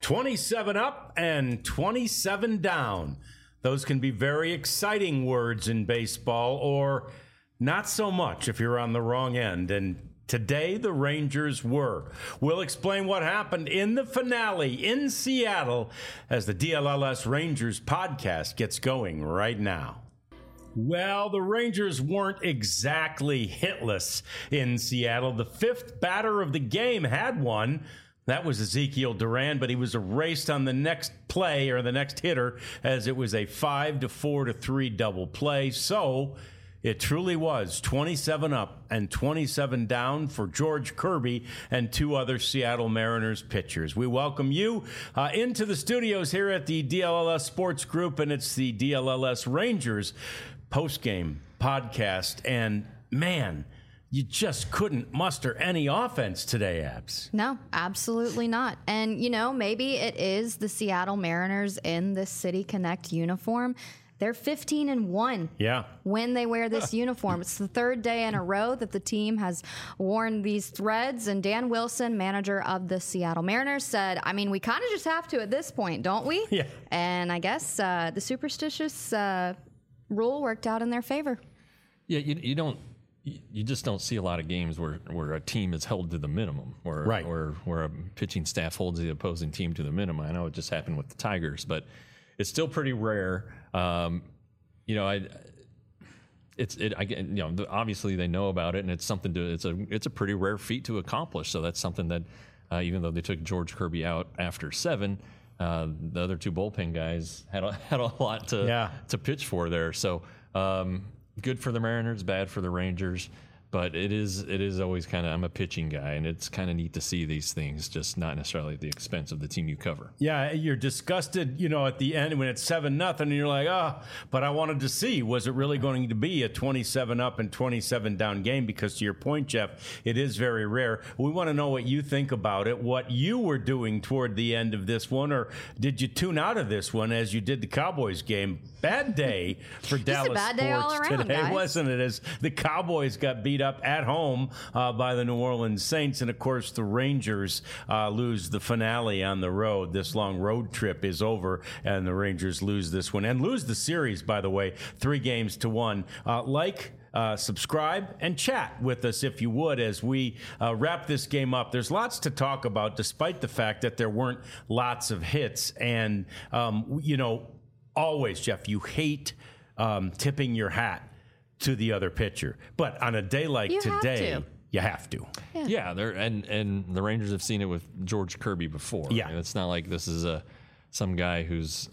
27 up and 27 down. Those can be very exciting words in baseball, or not so much if you're on the wrong end. And today, the Rangers were. We'll explain what happened in the finale in Seattle as the DLLS Rangers podcast gets going right now. Well, the Rangers weren't exactly hitless in Seattle. The fifth batter of the game had one. That was Ezekiel Duran, but he was erased on the next play or the next hitter as it was a 5-4-3 double play. So it truly was 27 up and 27 down for George Kirby and two other Seattle Mariners pitchers. We welcome you into the studios here at the DLLS Sports Group, and it's the DLLS Rangers post-game podcast. And man, you just couldn't muster any offense today, Abs. No, absolutely not. And, you know, maybe it is the Seattle Mariners in this City Connect uniform. They're 15-1 when they wear this uniform. It's the third day in a row that the team has worn these threads. And Dan Wilson, manager of the Seattle Mariners, said, I mean, we kind of just have to at this point, don't we? Yeah. And I guess the superstitious rule worked out in their favor. Yeah, you just don't see a lot of games where a team is held to the minimum, where a pitching staff holds the opposing team to the minimum. I know it just happened with the Tigers, but it's still pretty rare. Obviously they know about it, and it's something it's a pretty rare feat to accomplish. So that's something that even though they took George Kirby out after 7, the other two bullpen guys had a lot to pitch for there. So. Good for the Mariners, bad for the Rangers, but it is always kind of, I'm a pitching guy, and it's kind of neat to see these things, just not necessarily at the expense of the team you cover. Yeah, you're disgusted, at the end when it's 7-0, and you're like, but I wanted to see, was it really going to be a 27 up and 27 down game? Because to your point, Jeff, it is very rare. We want to know what you think about it, what you were doing toward the end of this one, or did you tune out of this one as you did the Cowboys game? Bad day for Dallas bad day sports all around, today, guys. wasn't it? As the Cowboys got beat up at home by the New Orleans Saints, and of course the Rangers lose the finale on the road. This long road trip is over, and the Rangers lose this one and lose the series, by the way, 3-1. Subscribe and chat with us if you would as we wrap this game up. There's lots to talk about, despite the fact that there weren't lots of hits. And, always, Jeff, you hate tipping your hat to the other pitcher. But on a day like today, you have to. Yeah, and the Rangers have seen it with George Kirby before. Yeah. I mean, it's not like this is some guy who's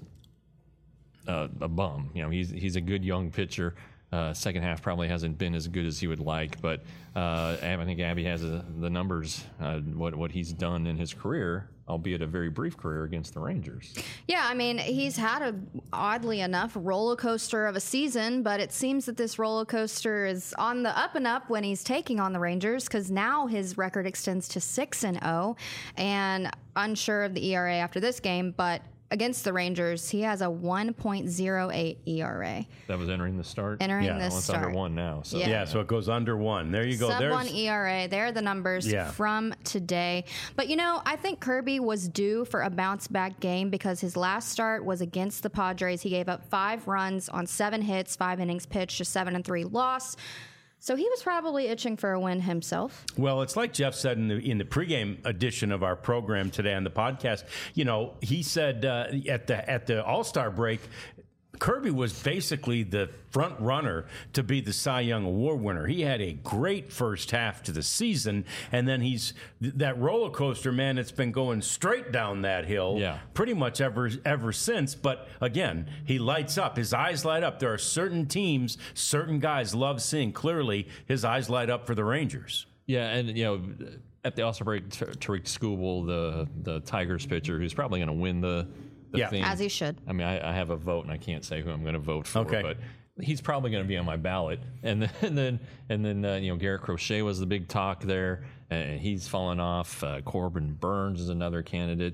a bum. He's a good young pitcher. Second half probably hasn't been as good as he would like, but I think Abby has the numbers, what he's done in his career, albeit a very brief career against the Rangers. Yeah, I mean, he's had oddly enough, roller coaster of a season, but it seems that this roller coaster is on the up and up when he's taking on the Rangers, because now his record extends to 6-0, and unsure of the ERA after this game, but against the Rangers, he has a 1.08 ERA. That was entering the start? It's start. Under 1 now. So. Yeah, so it goes under 1. There you go. Sub-1 ERA. There are the numbers from today. But, I think Kirby was due for a bounce-back game because his last start was against the Padres. He gave up 5 runs on 7 hits, 5 innings pitched, a 7-3 loss. So he was probably itching for a win himself. Well, it's like Jeff said in the pregame edition of our program today on the podcast. He said at the All-Star break, Kirby was basically the front runner to be the Cy Young Award winner. He had a great first half to the season, and then he's that roller coaster, man. It's been going straight down that hill pretty much ever since. But again, he lights up. His eyes light up. There are certain teams, certain guys love seeing clearly his eyes light up for the Rangers. Yeah, and at the All-Star break, Tariq Skubal, the Tigers pitcher, who's probably going to win the thing. As he should. I mean, I have a vote, and I can't say who I'm going to vote for, but he's probably going to be on my ballot. And then Garrett Crochet was the big talk there, and he's fallen off. Corbin Burns is another candidate.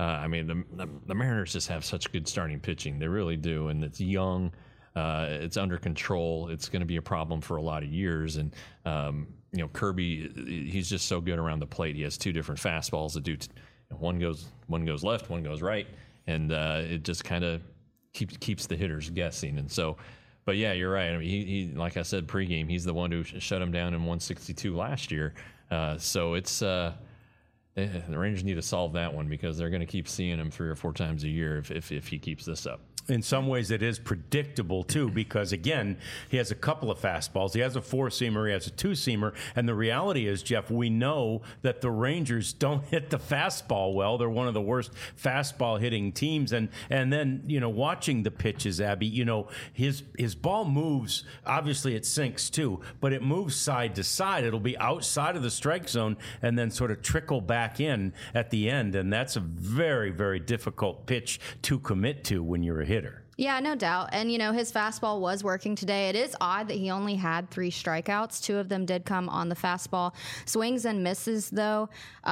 The Mariners just have such good starting pitching. They really do, and it's young. It's under control. It's going to be a problem for a lot of years. And, Kirby, he's just so good around the plate. He has 2 different fastballs that do one goes left, one goes right, and it just kind of keeps the hitters guessing. And so, but yeah, you're right. I mean, he like I said pregame, he's the one who shut him down in 162 last year. So it's the Rangers need to solve that one, because they're going to keep seeing him 3 or 4 times a year if he keeps this up. In some ways, it is predictable, too, because, again, he has a couple of fastballs. He has a 4-seamer. He has a 2-seamer. And the reality is, Jeff, we know that the Rangers don't hit the fastball well. They're one of the worst fastball-hitting teams. And then, watching the pitches, Abby, his ball moves. Obviously, it sinks, too, but it moves side to side. It'll be outside of the strike zone and then sort of trickle back in at the end. And that's a very, very difficult pitch to commit to when you're a hitter. Yeah, no doubt. And, his fastball was working today. It is odd that he only had 3 strikeouts. 2 of them did come on the fastball. Swings and misses, though,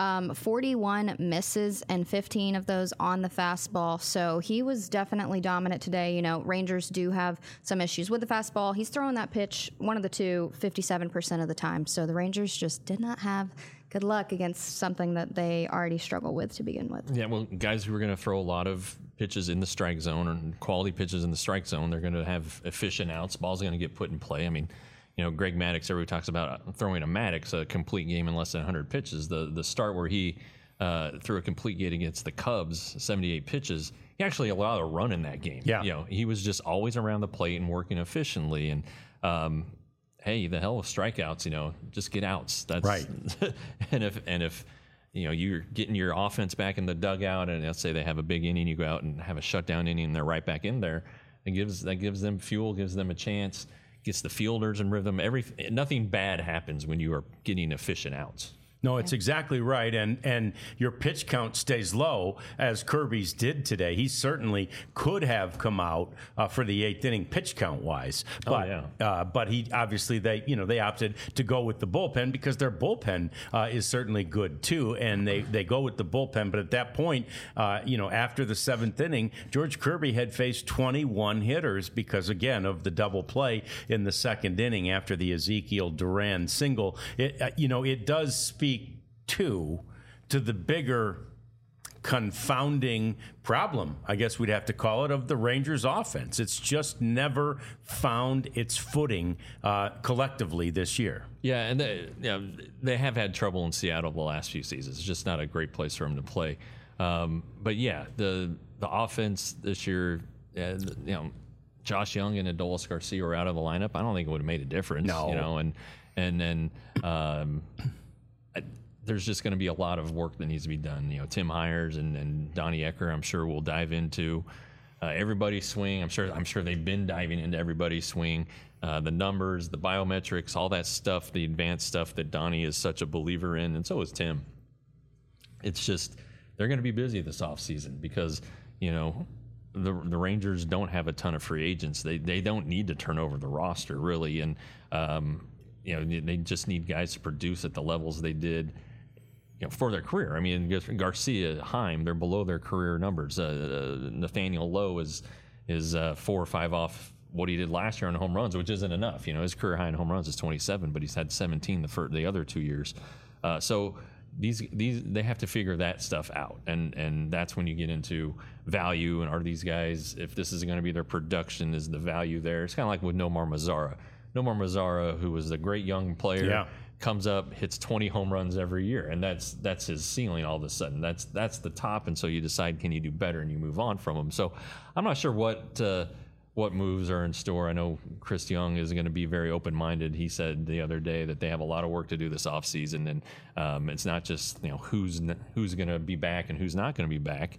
41 misses and 15 of those on the fastball. So he was definitely dominant today. Rangers do have some issues with the fastball. He's throwing that pitch, one of the two, 57% of the time. So the Rangers just did not have good luck against something that they already struggle with to begin with. Yeah, well, guys who are going to throw a lot of pitches in the strike zone, or quality pitches in the strike zone, they're going to have efficient outs. Ball's going to get put in play. I mean, Greg Maddux, everybody talks about throwing a Maddux a complete game in less than 100 pitches. The start where he threw a complete game against the Cubs, 78 pitches, he actually allowed a run in that game. Yeah. He was just always around the plate and working efficiently. And hey, the hell with strikeouts, just get outs. That's right. and if you're getting your offense back in the dugout, and let's say they have a big inning, you go out and have a shutdown inning, and they're right back in there. That gives them fuel, gives them a chance, gets the fielders in rhythm. Nothing bad happens when you are getting efficient outs. No, it's exactly right, and your pitch count stays low, as Kirby's did today. He certainly could have come out for the 8th inning pitch count wise, but he obviously they opted to go with the bullpen, because their bullpen is certainly good too, and they go with the bullpen. But at that point, after the 7th inning, George Kirby had faced 21 hitters because, again, of the double play in the 2nd inning after the Ezekiel Duran single. It does speak to the bigger confounding problem, I guess we'd have to call it, of the Rangers offense. It's just never found its footing collectively this year. Yeah, and they have had trouble in Seattle the last few seasons. It's just not a great place for them to play. But yeah, the offense this year, Josh Young and Adolis Garcia were out of the lineup. I don't think it would have made a difference. No. And then there's just going to be a lot of work that needs to be done. Tim Hires and Donnie Ecker, I'm sure, will dive into everybody's swing. I'm sure they've been diving into everybody's swing, the numbers, the biometrics, all that stuff, the advanced stuff that Donnie is such a believer in, and so is Tim. It's just they're going to be busy this offseason because the Rangers don't have a ton of free agents. They don't need to turn over the roster really, and they just need guys to produce at the levels they did for their career. I mean, Garcia, Heim, they're below their career numbers. Nathaniel Lowe is 4 or 5 off what he did last year on home runs, which isn't enough. His career high in home runs is 27, but he's had 17 the other 2 years. So these they have to figure that stuff out, and that's when you get into value. And are these guys, if this is going to be their production, is the value there? It's kind of like with Nomar Mazara. Nomar Mazara, who was a great young player, comes up, hits 20 home runs every year, and that's his ceiling. All of a sudden, that's the top, and so you decide, can you do better, and you move on from him. So I'm not sure what moves are in store. I know Chris Young is going to be very open-minded. He said the other day that they have a lot of work to do this offseason, and it's not just who's going to be back and who's not going to be back.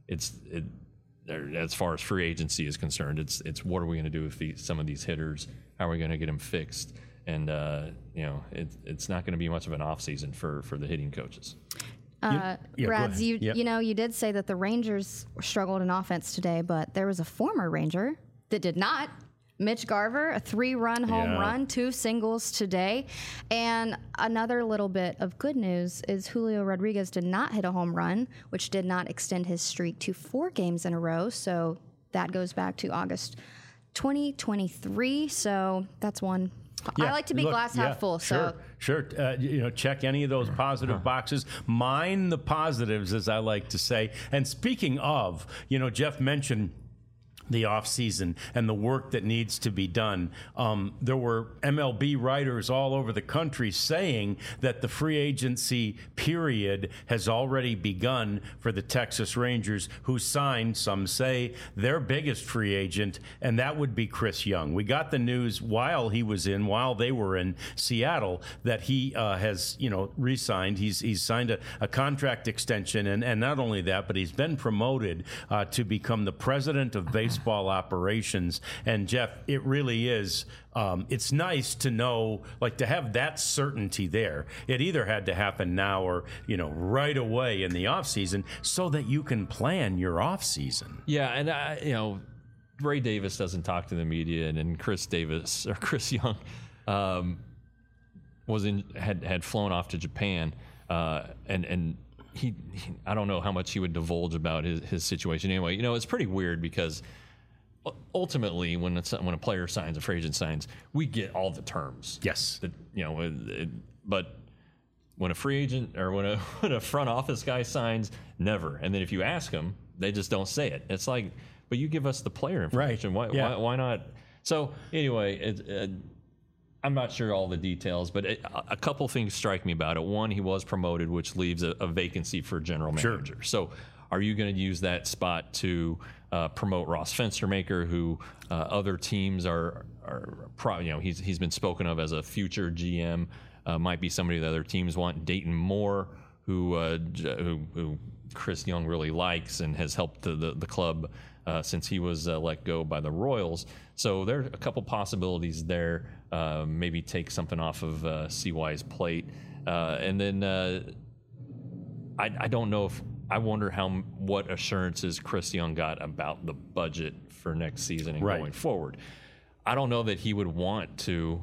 As far as free agency is concerned, it's what are we going to do with some of these hitters? How are we going to get them fixed? And it's not going to be much of an off season for the hitting coaches. Rads, you did say that the Rangers struggled in offense today, but there was a former Ranger that did not. Mitch Garver, a 3-run home run, 2 singles today. And another little bit of good news is Julio Rodriguez did not hit a home run, which did not extend his streak to 4 games in a row. So that goes back to August 2023. So that's one. I like to be glass half full. Sure. Sure. Check any of those positive boxes. Mine the positives, as I like to say. And speaking of, Jeff mentioned the offseason and the work that needs to be done. There were MLB writers all over the country saying that the free agency period has already begun for the Texas Rangers, who signed, some say, their biggest free agent, and that would be Chris Young. We got the news while they were in Seattle, that he has, re-signed. He's signed a contract extension, and not only that, but he's been promoted to become the president of baseball operations. And Jeff, it really is. It's nice to know, to have that certainty there. It either had to happen now or, right away in the offseason so that you can plan your offseason. Yeah, and, Ray Davis doesn't talk to the media, and Chris Young had flown off to Japan, and he I don't know how much he would divulge about his situation. Anyway, it's pretty weird because ultimately, when a player signs, a free agent signs, we get all the terms. Yes. But when a free agent or when a front office guy signs, never. And then if you ask them, they just don't say it. It's like, but you give us the player information. Right. Why not? So anyway, I'm not sure all the details, but a couple things strike me about it. One, he was promoted, which leaves a vacancy for general manager. Sure. So are you going to use that spot to promote Ross Fenstermaker, who other teams are he's been spoken of as a future GM, might be somebody that other teams want. Dayton Moore, who Chris Young really likes and has helped the club since he was let go by the Royals. So there are a couple possibilities there. Maybe take something off of CY's plate. And then I don't know if I wonder what assurances Chris Young got about the budget for next season and going forward. I don't know that he would want to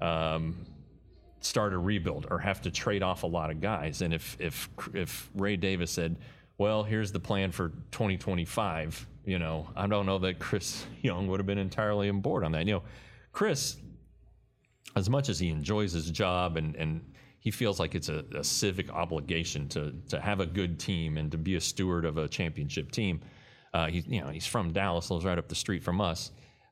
start a rebuild or have to trade off a lot of guys. And if Ray Davis said, well, here's the plan for 2025, I don't know that Chris Young would have been entirely on board on that. Chris, as much as he enjoys his job and he feels like it's a civic obligation to have a good team and to be a steward of a championship team. He's from Dallas, lives right up the street from us.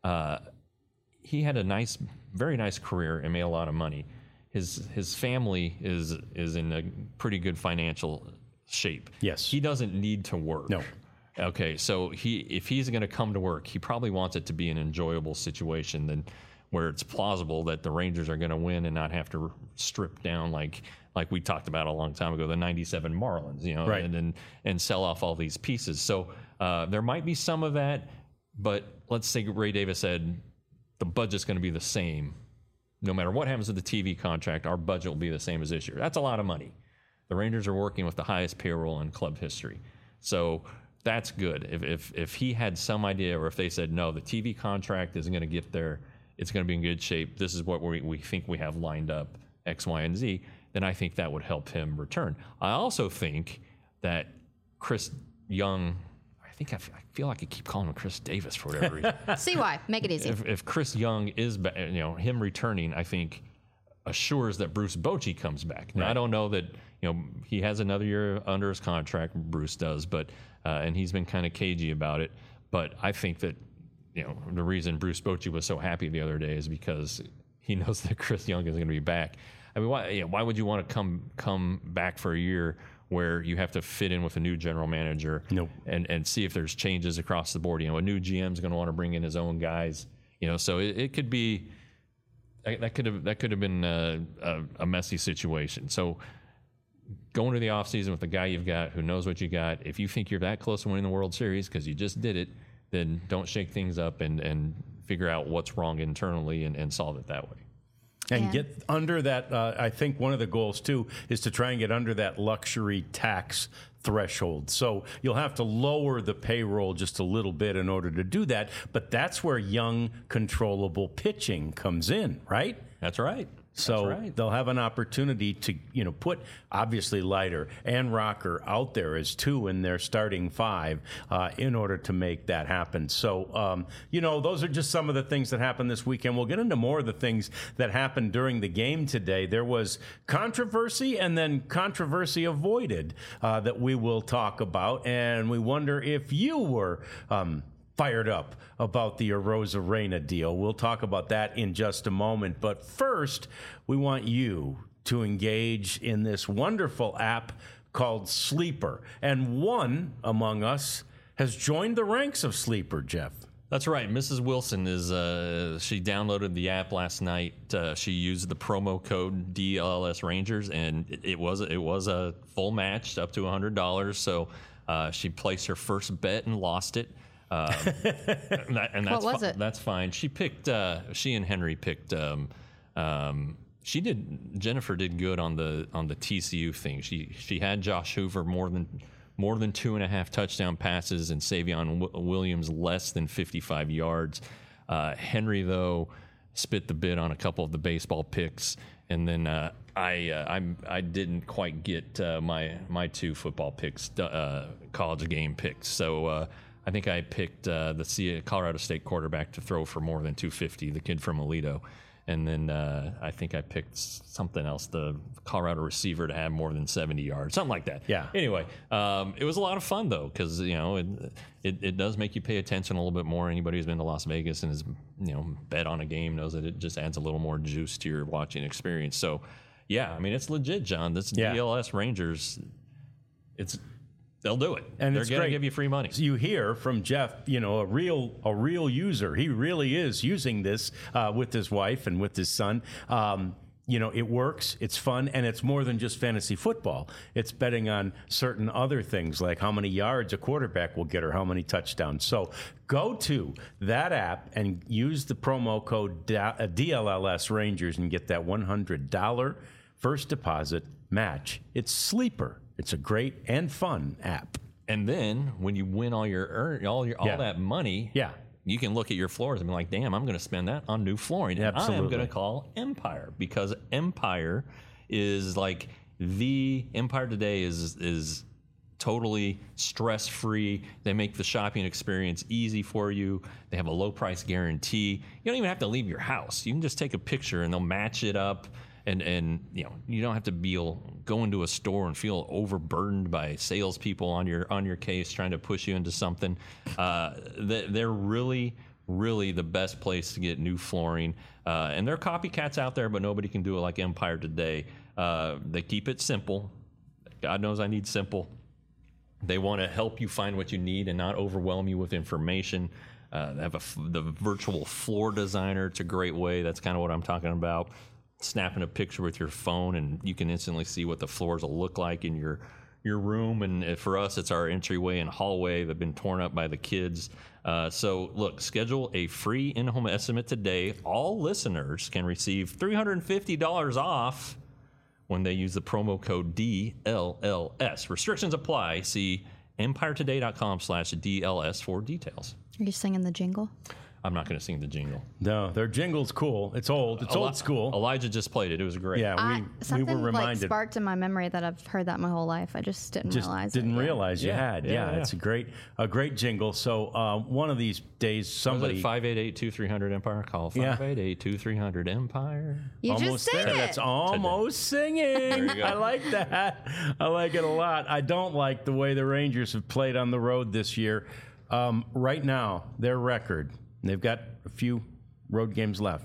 He had a very nice career and made a lot of money. His family is in a pretty good financial shape. Yes. He doesn't need to work. No. Okay, so if he's going to come to work, he probably wants it to be an enjoyable situation where it's plausible that the Rangers are going to win and not have to strip down like we talked about a long time ago, the 97 Marlins, right. and sell off all these pieces. So there might be some of that, but let's say Ray Davis said the budget's going to be the same. No matter what happens with the TV contract, our budget will be the same as this year. That's a lot of money. The Rangers are working with the highest payroll in club history. So that's good. If he had some idea, or if they said, no, the TV contract isn't going to get there, it's going to be in good shape, this is what we think we have lined up, X, Y, and Z, then I think that would help him return. I also think that Chris Young, I feel like I keep calling him Chris Davis for whatever reason. CY, make it easy. If Chris Young is, him returning, I think assures that Bruce Bochy comes back. Now, right. I don't know that, he has another year under his contract, Bruce does, but and he's been kind of cagey about it. But I think that, the reason Bruce Bochy was so happy the other day is because he knows that Chris Young is going to be back. I mean, why would you want to come back for a year where you have to fit in with a new general manager and see if there's changes across the board? A new GM is going to want to bring in his own guys. So it could be that could have been a messy situation. So go into the offseason with the guy you've got who knows what you got. If you think you're that close to winning the World Series because you just did it, then don't shake things up and figure out what's wrong internally and solve it that way. And get under that. I think one of the goals, too, is to try and get under that luxury tax threshold. So you'll have to lower the payroll just a little bit in order to do that. But that's where young, controllable pitching comes in, right? That's right. So they'll have an opportunity to, put obviously Leiter and Rocker out there as 2 in their starting 5 in order to make that happen. So, those are just some of the things that happened this weekend. We'll get into more of the things that happened during the game today. There was controversy and then controversy avoided that we will talk about. And we wonder if you were fired up about the Arozarena deal. We'll talk about that in just a moment. But first, we want you to engage in this wonderful app called Sleeper. And one among us has joined the ranks of Sleeper, Jeff. That's right. Mrs. Wilson she downloaded the app last night. She used the promo code DLS Rangers, and it was a full match up to $100. So she placed her first bet and lost it. What was it? That's fine. She and Henry picked. Jennifer did good on the TCU thing. She had Josh Hoover more than 2.5 touchdown passes and Savion Williams less than 55 yards. Henry though spit the bit on a couple of the baseball picks, and then I didn't quite get my 2 football picks, college game picks. So. I think I picked the Colorado State quarterback to throw for more than 250, the kid from Aledo. And then I think I picked something else, the Colorado receiver to have more than 70 yards, something like that. Yeah. Anyway, it was a lot of fun, though, because, it does make you pay attention a little bit more. Anybody who's been to Las Vegas and has, bet on a game knows that it just adds a little more juice to your watching experience. So, yeah, I mean, it's legit, John. This DLS Rangers, they'll do it. And they're going to give you free money. So you hear from Jeff, a real user. He really is using this with his wife and with his son. It works, it's fun, and it's more than just fantasy football. It's betting on certain other things like how many yards a quarterback will get or how many touchdowns. So go to that app and use the promo code DLLS Rangers and get that $100 first deposit match. It's Sleeper. It's a great and fun app. And then when you win all that money, you can look at your floors and be like, damn, I'm going to spend that on new flooring. And I am going to call Empire, because Empire is like Empire today is totally stress-free. They make the shopping experience easy for you. They have a low price guarantee. You don't even have to leave your house. You can just take a picture and they'll match it up. And you don't have to go into a store and feel overburdened by salespeople on your case trying to push you into something. They're really, really the best place to get new flooring. And there are copycats out there, but nobody can do it like Empire today. They keep it simple. God knows I need simple. They want to help you find what you need and not overwhelm you with information. They have the virtual floor designer. It's a great way. That's kind of what I'm talking about. Snapping a picture with your phone, and you can instantly see what the floors will look like in your room. And for us, it's our entryway and hallway that have been torn up by the kids. So look, schedule a free in-home estimate today. All listeners can receive $350 off when they use the promo code DLLS. Restrictions apply. See EmpireToday.com/DLS for details. Are you singing the jingle? I'm not going to sing the jingle. No, their jingle's cool. It's old. It's old school. Elijah just played it. It was great. Yeah, we were reminded. Something sparked in my memory that I've heard that my whole life. I just didn't realize. Didn't realize you had. Yeah, it's a great jingle. So one of these days, somebody 588-2300 Empire. Call 588-2300 Empire. You almost just sang there. it. That's almost singing. There you go. I like that. I like it a lot. I don't like the way the Rangers have played on the road this year. Right now, their record. They've got a few road games left,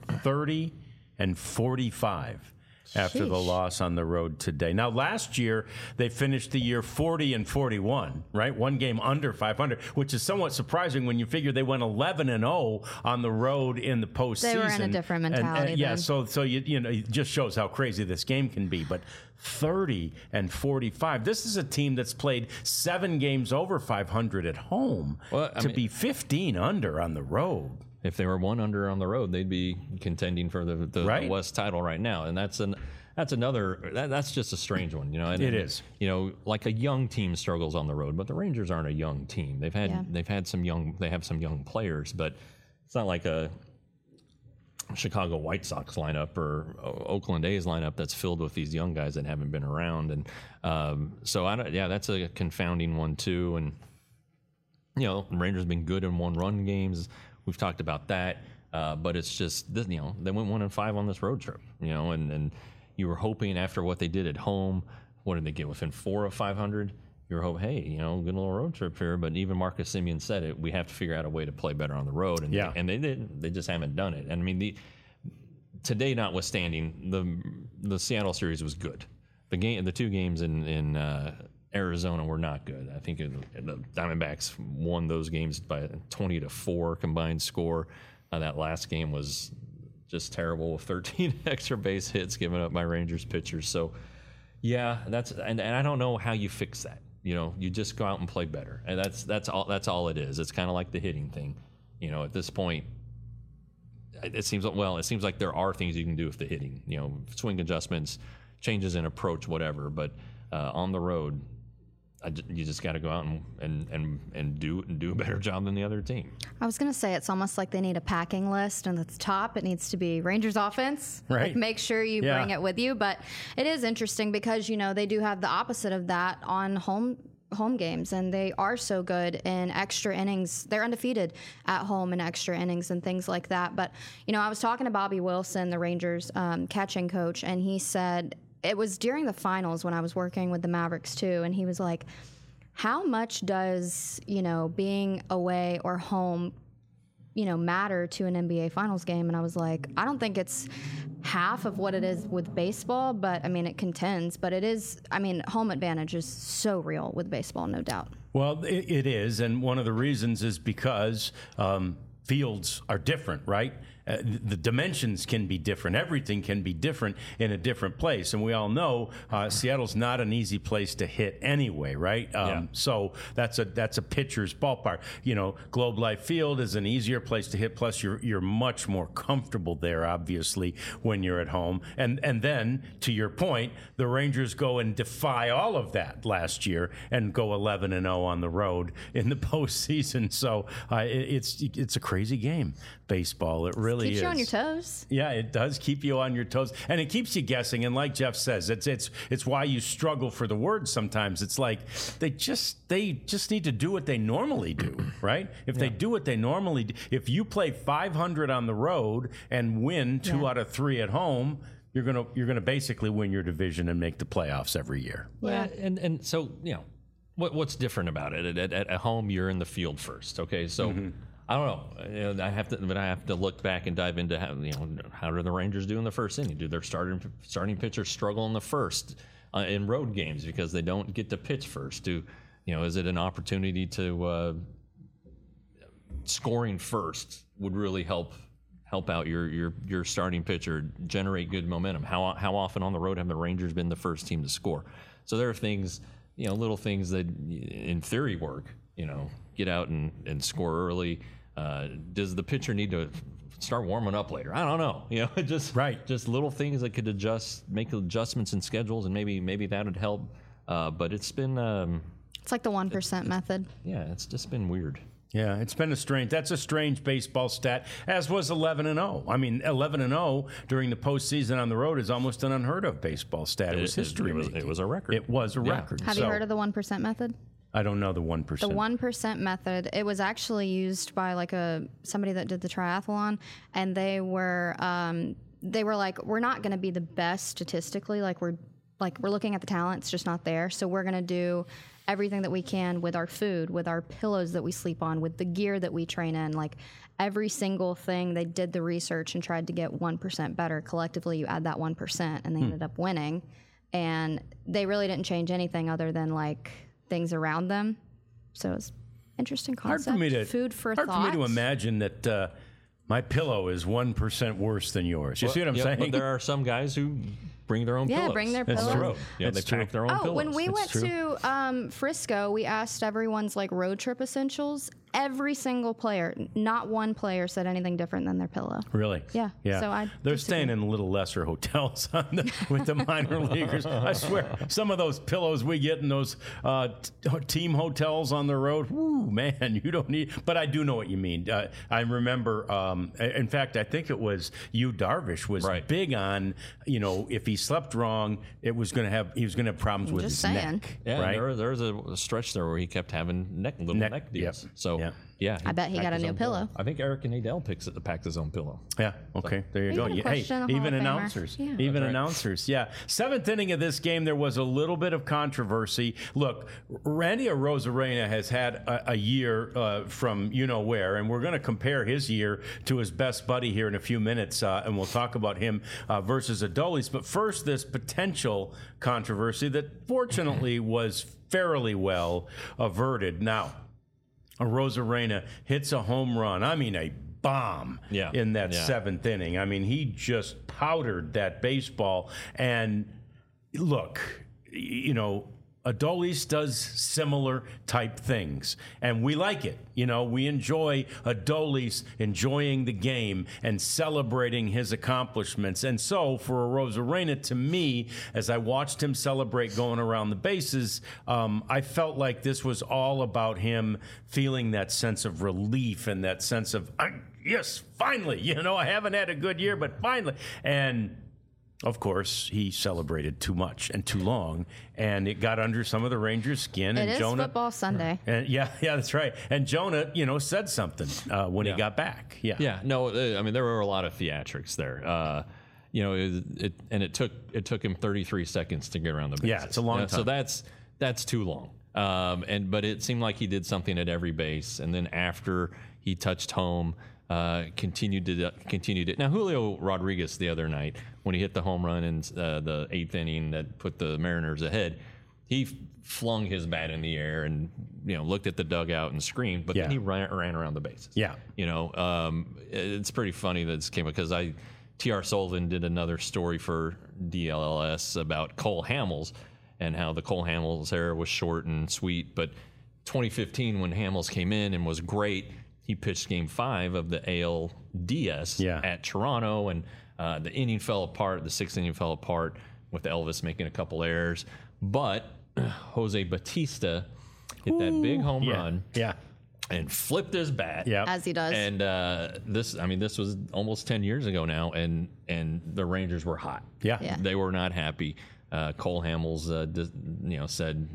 30-45 after the loss on the road today. Now, last year, they finished the year 40-41, right? One game under 500, which is somewhat surprising when you figure they went 11-0 on the road in the postseason. They were in a different mentality then. So it just shows how crazy this game can be. But 30-45. This is a team that's played 7 games over 500 at home be 15 under on the road. If they were 1 under on the road, they'd be contending for the West title right now, and that's just a strange one, It is. Like a young team struggles on the road, but the Rangers aren't a young team. They have some young players, but it's not like Chicago White Sox lineup or Oakland A's lineup that's filled with these young guys that haven't been around. And so, that's a confounding one, too. And, Rangers have been good in one-run games. We've talked about that. But it's just, they went 1-5 on this road trip, and you were hoping after what they did at home, what did they get, within 4 of 500? You were hoping, hey, good little road trip here. But even Marcus Semien said it, we have to figure out a way to play better on the road. And, and they didn't. They just haven't done it. And I mean, today notwithstanding, the Seattle series was good. The 2 games in Arizona were not good. I think the Diamondbacks won those games by a 20-4 combined score. That last game was just terrible with 13 extra base hits given up by Rangers pitchers. So, and I don't know how you fix that. You just go out and play better, and that's all it is. It's kind of like the hitting thing. At this point, it seems like there are things you can do with the hitting. Swing adjustments, changes in approach, whatever. But on the road, you just got to go out and do a better job than the other team. I was going to say it's almost like they need a packing list, and at the top it needs to be Rangers offense. Right. Like make sure you bring it with you. But it is interesting because they do have the opposite of that on home games, and they are so good in extra innings. They're undefeated at home in extra innings and things like that. But I was talking to Bobby Wilson, the Rangers catching coach, and he said. It was during the finals when I was working with the Mavericks too, and he was like, how much does, being away or home, matter to an NBA Finals game? And I was like, I don't think it's half of what it is with baseball, but, it contends. But it is, home advantage is so real with baseball, no doubt. Well, it is, and one of the reasons is because fields are different, right? The dimensions can be different. Everything can be different in a different place. And we all know Seattle's not an easy place to hit anyway, right? So that's a pitcher's ballpark. Globe Life Field is an easier place to hit. Plus, you're much more comfortable there, obviously, when you're at home. And then, to your point, the Rangers go and defy all of that last year and go 11-0 on the road in the postseason. So it's a crazy game, baseball. It really keeps is. You on your toes. Yeah, it does keep you on your toes, and it keeps you guessing. And like Jeff says, it's why you struggle for the words sometimes. It's like they just need to do what they normally do, right? If they do what they normally do, if you play 500 on the road and win 2 out of 3 at home, you're gonna basically win your division and make the playoffs every year. Yeah, and so what's different about it? At home, you're in the field first. Okay, so. Mm-hmm. I don't know. I have to look back and dive into how do the Rangers do in the first inning? Do their starting pitchers struggle in the first in road games because they don't get to pitch first? Is it an opportunity to scoring first would really help out your starting pitcher, generate good momentum? How often on the road have the Rangers been the first team to score? So there are things, little things that in theory work. Get out and score early. Does the pitcher need to start warming up later? I don't know. Just little things that could make adjustments in schedules, and maybe that would help. But it's been it's like the 1% method. Yeah, it's just been weird. Yeah, it's been that's a strange baseball stat, as was 11-0. 11-0 during the postseason on the road is almost an unheard of baseball stat. It was history. It was a record. It was a record. Have you heard of the 1% method? I don't know the 1%. The 1% method, it was actually used by somebody that did the triathlon, and they were like, we're not going to be the best statistically, we're looking at the talent, it's just not there. So we're going to do everything that we can with our food, with our pillows that we sleep on, with the gear that we train in, every single thing. They did the research and tried to get 1% better. Collectively, you add that 1%, and they ended up winning. And they really didn't change anything other than things around them. So it's interesting concept. Food for thought. Hard for me to imagine that my pillow is 1% worse than yours. You see what I'm saying? But there are some guys who bring their own pillows. Yeah, bring their pillows. On the road. Yeah, they pack their own pillows. When we went to Frisco, we asked everyone's like road trip essentials. Every single player, not one player said anything different than their pillow. Really? Yeah. So they're staying in little lesser hotels with the minor leaguers. I swear, some of those pillows we get in those team hotels on the road, whoo, man, you don't need. But I do know what you mean. I remember, in fact, I think it was Yu Darvish was big on, if he slept wrong, he was going to have problems with his neck. Yeah, right? there was a stretch there where he kept having little neck deals. Yep. So. Yeah, I bet he got a new pillow. I think Eric Nadel packed his own pillow. Yeah. Okay. So, there you go. Hey, even announcers. Yeah. Even announcers. Yeah. Seventh inning of this game, there was a little bit of controversy. Look, Randy Arozarena has had a year from where, and we're going to compare his year to his best buddy here in a few minutes, and we'll talk about him versus Adolis. But first, this potential controversy that fortunately was fairly well averted. Now, Arozarena hits a home run. I mean, a bomb in that seventh inning. I mean, he just powdered that baseball. And look, Adolis does similar type things, and we like it. We enjoy Adolis enjoying the game and celebrating his accomplishments. And so for Arozarena, to me, as I watched him celebrate going around the bases, I felt like this was all about him feeling that sense of relief and that sense of, yes, finally, I haven't had a good year, but finally. And of course, he celebrated too much and too long, and it got under some of the Rangers' skin. It is football Sunday. And yeah, that's right. And Jonah, said something when he got back. Yeah. No, I mean, there were a lot of theatrics there. It took him 33 seconds to get around the bases. Yeah, it's a long time. So that's too long. But it seemed like he did something at every base, and then after he touched home, continued it. Now, Julio Rodriguez the other night, when he hit the home run in the eighth inning that put the Mariners ahead, he flung his bat in the air and looked at the dugout and screamed. But then he ran around the bases. Yeah, it's pretty funny that this came because T.R. Sullivan did another story for DLLS about Cole Hamels and how the Cole Hamels era was short and sweet. But 2015, when Hamels came in and was great, he pitched Game 5 of the ALDS at Toronto, and the inning fell apart. The sixth inning fell apart with Elvis making a couple errors. But Jose Bautista hit that big home run and flipped his bat. As he does. And this was almost 10 years ago now, and the Rangers were hot. Yeah. They were not happy. Cole Hamels said,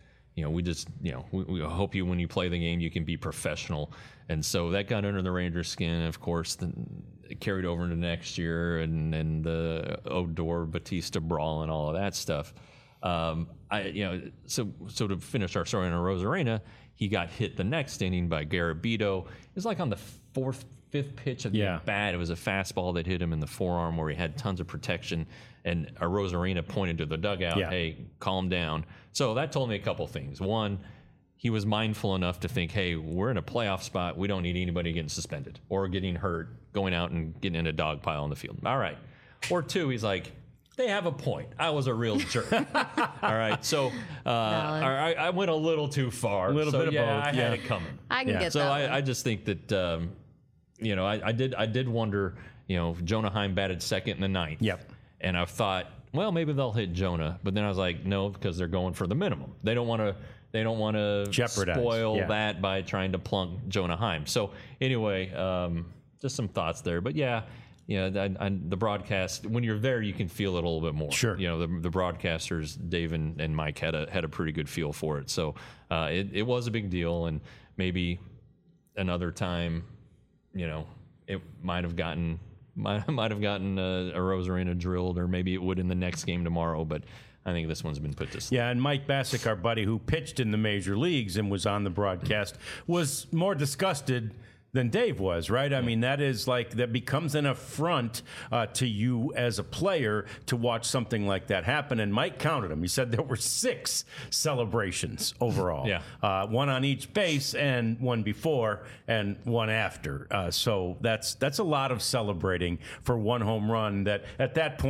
we hope when you play the game, you can be professional. And so that got under the Rangers' skin. Of course, it carried over into next year and the Odor Batista brawl and all of that stuff. So to finish our story on Arozarena, he got hit the next inning by Garabito. It was like on the fifth pitch of the bat. It was a fastball that hit him in the forearm where he had tons of protection. And Arozarena pointed to the dugout, hey, calm down. So that told me a couple things. One, he was mindful enough to think, hey, we're in a playoff spot. We don't need anybody getting suspended or getting hurt, going out and getting in a dog pile on the field. All right. Or two, he's like, they have a point. I was a real jerk. All right. So I went a little too far. A little bit of both. I had it coming. I can get that. So I just think that, I did wonder, Jonah Heim batted second in the ninth. Yep. And I thought, well, maybe they'll hit Jonah. But then I was like, no, because they're going for the minimum. They don't want to spoil that by trying to plunk Jonah Heim. So anyway, just some thoughts there. But the broadcast, when you're there, you can feel it a little bit more. Sure. The broadcasters, Dave and Mike, had a pretty good feel for it. So it was a big deal, and maybe another time, it might have gotten Arozarena drilled, or maybe it would in the next game tomorrow. But I think this one's been put to sleep. Yeah, and Mike Bassick, our buddy who pitched in the major leagues and was on the broadcast, was more disgusted than Dave was, right? I mean, that becomes an affront to you as a player to watch something like that happen. And Mike counted them. He said there were 6 celebrations overall. One on each base, and one before and one after. So that's a lot of celebrating for one home run that at that point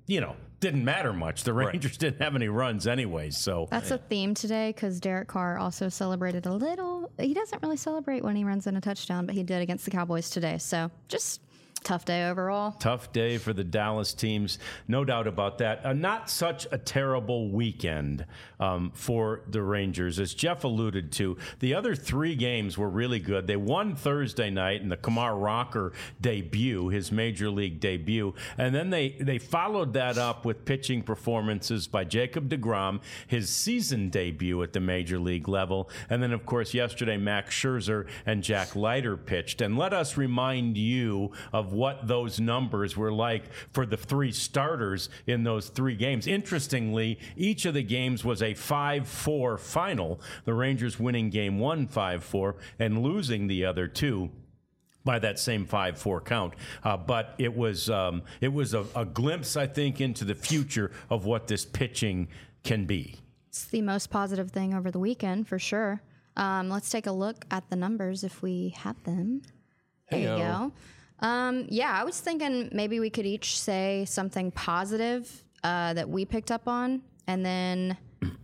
didn't matter much. The Rangers didn't have any runs anyway. So that's a theme today because Derek Carr also celebrated a little. He doesn't really celebrate when he runs in a touchdown, but he did against the Cowboys today. So just tough day overall. Tough day for the Dallas teams. No doubt about that. Not such a terrible weekend for the Rangers. As Jeff alluded to, the other 3 games were really good. They won Thursday night in the Kumar Rocker debut, his major league debut. And then they followed that up with pitching performances by Jacob deGrom, his season debut at the major league level. And then, of course, yesterday, Max Scherzer and Jack Leiter pitched. And let us remind you of what those numbers were like for the 3 starters in those 3 games. Interestingly, each of the games was a 5-4 final, the Rangers winning game 1 5-4 and losing the other 2 by that same 5-4 count. But it was a glimpse, I think, into the future of what this pitching can be. It's the most positive thing over the weekend, for sure. Let's take a look at the numbers if we have them. There you go. I was thinking maybe we could each say something positive that we picked up on, and then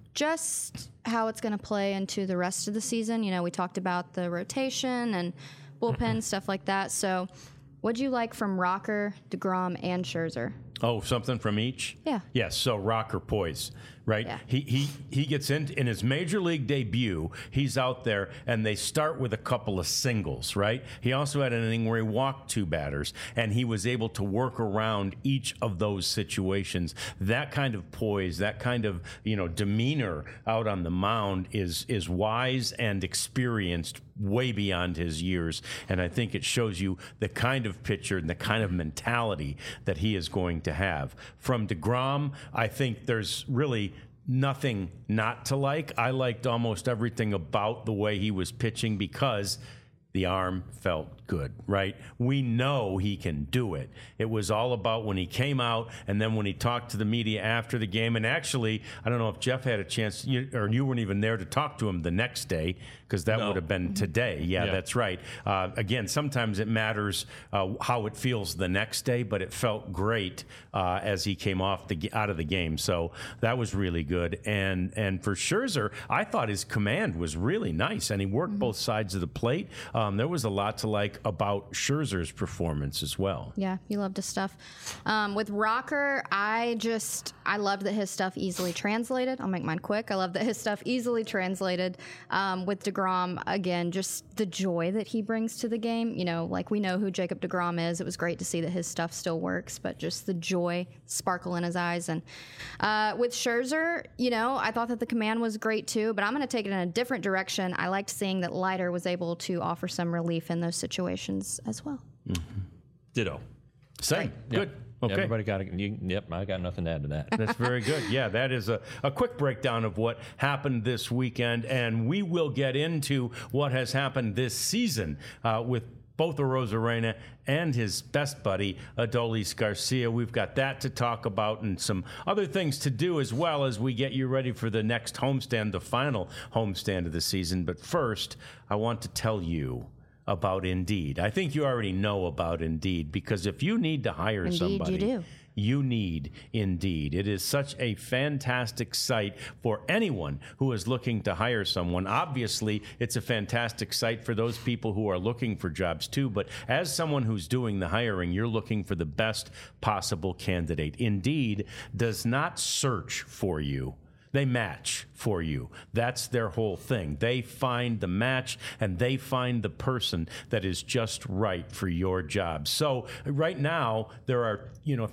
just how it's going to play into the rest of the season. We talked about the rotation and bullpen, stuff like that. So what'd you like from Rocker, deGrom, and Scherzer? Oh, something from each? Yeah. Yes, so Rocker poise, right? Yeah. He gets in his major league debut, he's out there, and they start with a couple of singles, right? He also had an inning where he walked 2 batters, and he was able to work around each of those situations. That kind of poise, that kind of, demeanor out on the mound is wise and experienced way beyond his years, and I think it shows you the kind of pitcher and the kind of mentality that he is going to have. From deGrom, I think there's really nothing not to like. I liked almost everything about the way he was pitching because the arm felt good, right? We know he can do it. It was all about when he came out and then when he talked to the media after the game. And actually, I don't know if Jeff had a chance, or you weren't even there to talk to him the next day, because that would have been today. Yeah, that's right. Again, sometimes it matters how it feels the next day, but it felt great as he came out of the game. So that was really good. And for Scherzer, I thought his command was really nice, and he worked both sides of the plate. There was a lot to like about Scherzer's performance as well. Yeah, you loved his stuff. With Rocker, I loved that his stuff easily translated. I'll make mine quick. I love that his stuff easily translated. With deGrom, again, just the joy that he brings to the game. Like we know who Jacob deGrom is. It was great to see that his stuff still works, but just the joy, sparkle in his eyes. And with Scherzer, I thought that the command was great too, but I'm going to take it in a different direction. I liked seeing that Leiter was able to offer some relief in those situations as well. Mm-hmm. Ditto. Same. Good. Okay. Everybody got it. Yep, I got nothing to add to that. That's very good. Yeah, that is a quick breakdown of what happened this weekend, and we will get into what has happened this season with both Arozarena and his best buddy, Adolis Garcia. We've got that to talk about and some other things to do as well as we get you ready for the next homestand, the final homestand of the season. But first, I want to tell you about Indeed. I think you already know about Indeed, because if you need to hire somebody, you do. You need Indeed. It is such a fantastic site for anyone who is looking to hire someone. Obviously, it's a fantastic site for those people who are looking for jobs too, but as someone who's doing the hiring, you're looking for the best possible candidate. Indeed does not search for you. They match for you. That's their whole thing. They find the match and they find the person that is just right for your job. So right now, there are,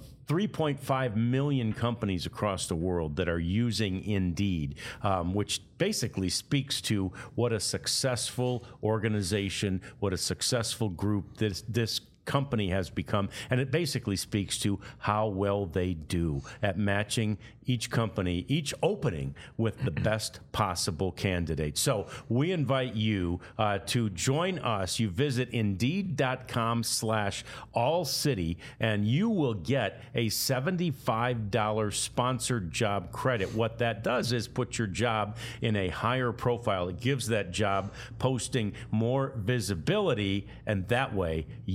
3.5 million companies across the world that are using Indeed, which basically speaks to what a successful organization, what a successful group this company has become, and it basically speaks to how well they do at matching each company, each opening with the best possible candidate. So we invite you to join us. You visit Indeed.com/allcity, and you will get a $75 sponsored job credit. What that does is put your job in a higher profile. It gives that job posting more visibility, and that way you get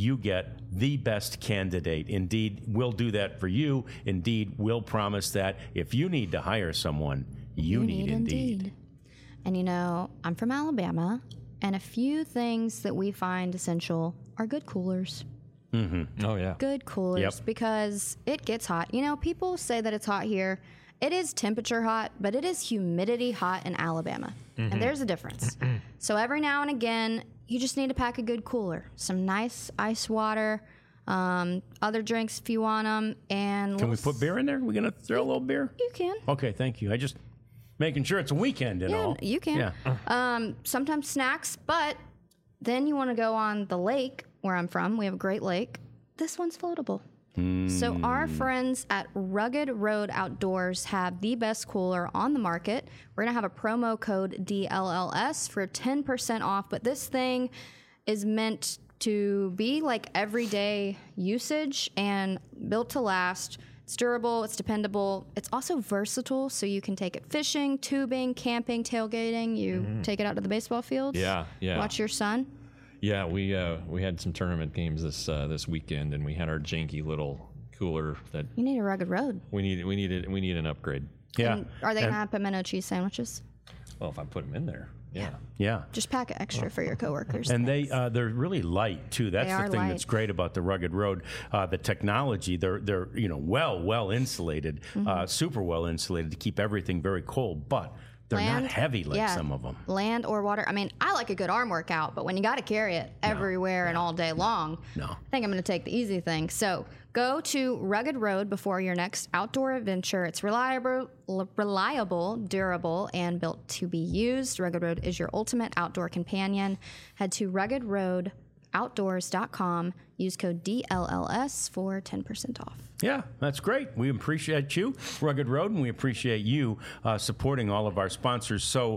get the best candidate. Indeed, we'll do that for you. Indeed, we'll promise that if you need to hire someone, you need Indeed. And you know, I'm from Alabama, and a few things that we find essential are good coolers. Mm-hmm. Oh, yeah. Good coolers, because it gets hot. You know, people say that it's hot here. It is temperature hot, but it is humidity hot in Alabama. And there's a difference. So every now and again, you just need to pack a good cooler. Some nice ice water, other drinks if you want them. And can we put beer in there? We're going to throw a little beer? You can. Okay, thank you. I just making sure it's a weekend and all. You can. Yeah. Sometimes snacks, but then you want to go on the lake where I'm from. We have a great lake. This one's floatable. So our friends at Rugged Road Outdoors have the best cooler on the market. We're going to have a promo code DLLS for 10% off, but this thing is meant to be like everyday usage and built to last. It's durable, it's dependable, it's also versatile, so you can take it fishing, tubing, camping, tailgating. You take it out to the baseball fields. Yeah. Watch your son. Yeah, we had some tournament games this weekend, and we had our janky little cooler that You need a Rugged Road. we need an upgrade. Yeah. And are they going to have pimento cheese sandwiches? Well, if I put them in there, yeah. Yeah. Just pack it extra for your coworkers. And they're really light too. That's They the are thing light. that's great about the Rugged Road. The technology, they're well insulated, super well insulated to keep everything very cold, but they're not heavy like some of them. Land or water. I mean, I like a good arm workout, but when you got to carry it everywhere and all day long, I think I'm going to take the easy thing. So go to Rugged Road before your next outdoor adventure. It's reliable, durable, and built to be used. Rugged Road is your ultimate outdoor companion. Head to ruggedroadoutdoors.com. Use code DLLS for 10% off. Yeah, that's great. We appreciate you, Rugged Road, and we appreciate you supporting all of our sponsors. So,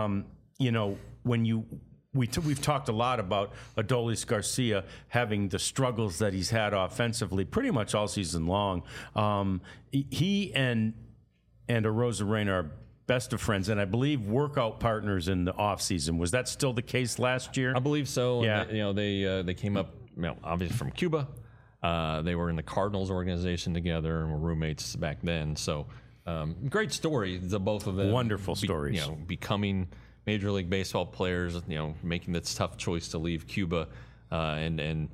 when we've talked a lot about Adolis Garcia having the struggles that he's had offensively pretty much all season long. He and Arozarena are best of friends, and I believe workout partners in the offseason. Was that still the case last year? I believe so. Yeah. And they came up, obviously from Cuba. They were in the Cardinals organization together and were roommates back then. So great story, the both of them. Wonderful stories. Becoming Major League Baseball players, making this tough choice to leave Cuba, and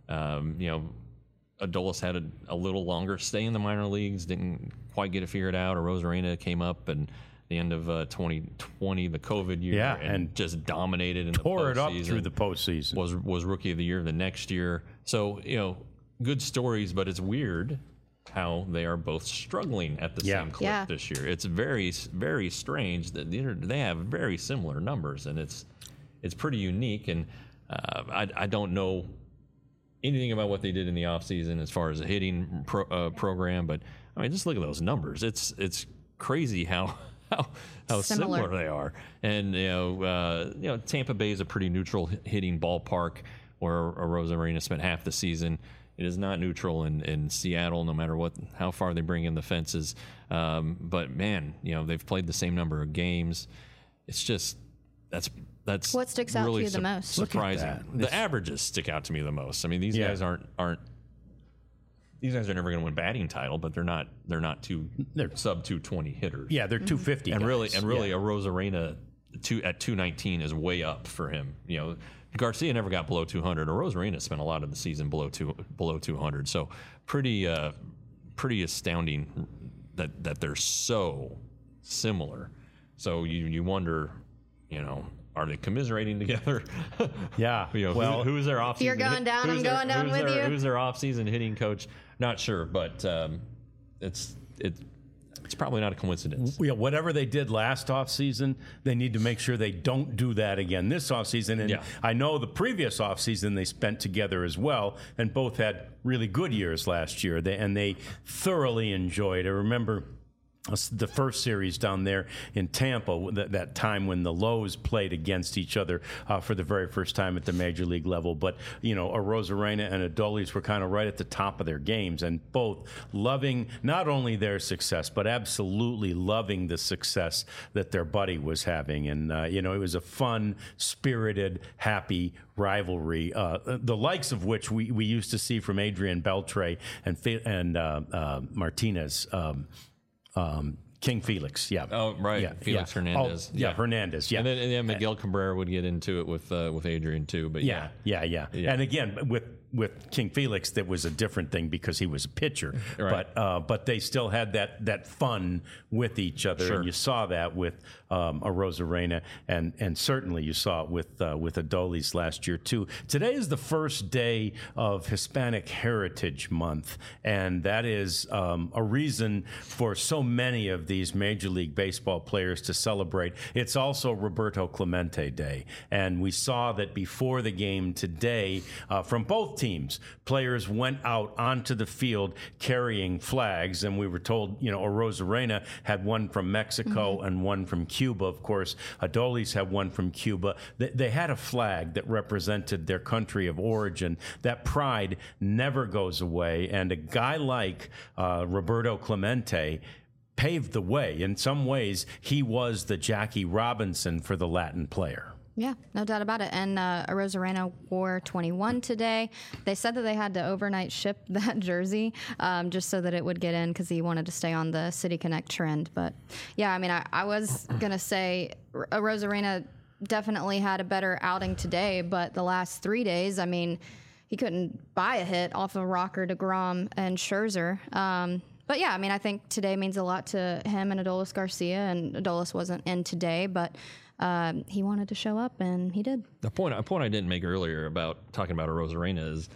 Adolis had a little longer stay in the minor leagues, didn't quite get it figured out. Arozarena came up and the end of 2020, the COVID year, and just dominated in the postseason. Tore it up through the postseason. Was Rookie of the Year the next year. So, good stories, but it's weird how they are both struggling at the same clip this year. It's very, very strange that they have very similar numbers, and it's pretty unique. And I don't know anything about what they did in the offseason as far as a hitting program, but I mean, just look at those numbers. It's crazy how similar they are. And Tampa Bay is a pretty neutral hitting ballpark, where Arozarena spent half the season. It is not neutral in Seattle, no matter how far they bring in the fences. But man, they've played the same number of games. It's just that's what sticks out really to you the most. surprising. The averages stick out to me the most. I mean, these guys aren't. These guys are never going to win batting title, but they're not they're sub 220 hitters. Yeah, they're 250. And really, Arozarena at 219 is way up for him. Garcia never got below 200. Arozarena spent a lot of the season below 200. So pretty astounding that they're so similar. So you wonder, are they commiserating together? Yeah. Who's their offseason? You're going down. I'm going down with you. Who's their offseason hitting coach? Not sure, but it's probably not a coincidence. Yeah, whatever they did last offseason, they need to make sure they don't do that again this offseason. And I know the previous offseason they spent together as well, and both had really good years last year. They thoroughly enjoyed. I remember the first series down there in Tampa, that time when the Lows played against each other for the very first time at the major league level. But, Arozarena and Adolis were kind of right at the top of their games, and both loving not only their success, but absolutely loving the success that their buddy was having. And, it was a fun, spirited, happy rivalry, the likes of which we used to see from Adrian Beltre and Martinez. King Felix, yeah. Oh, right. Yeah, Felix Hernandez. Oh, yeah, Hernandez, yeah. And then Miguel Cabrera would get into it with Adrian too. But yeah. And again, with King Felix, that was a different thing because he was a pitcher. Right. But they still had that fun with each other, and you saw that with Arozarena, and certainly you saw it with Adolis last year too. Today is the first day of Hispanic Heritage Month, and that is a reason for so many of these Major League Baseball players to celebrate. It's also Roberto Clemente Day, and we saw that before the game today from both teams, players went out onto the field carrying flags, and we were told, Arozarena had one from Mexico and one from Cuba. Of course, Adolis had one from Cuba. They had a flag that represented their country of origin. That pride never goes away, and a guy like Roberto Clemente paved the way. In some ways, he was the Jackie Robinson for the Latin player. Yeah, no doubt about it. And Arozarena wore 21 today. They said that they had to overnight ship that jersey just so that it would get in because he wanted to stay on the City Connect trend. But, yeah, I mean, I was going to say Arozarena definitely had a better outing today, but the last 3 days, I mean, he couldn't buy a hit off of Rocker, DeGrom, and Scherzer. But, yeah, I mean, I think today means a lot to him and Adolis Garcia, and Adolis wasn't in today, but he wanted to show up, and he did. A point I didn't make earlier about talking about Arozarena is,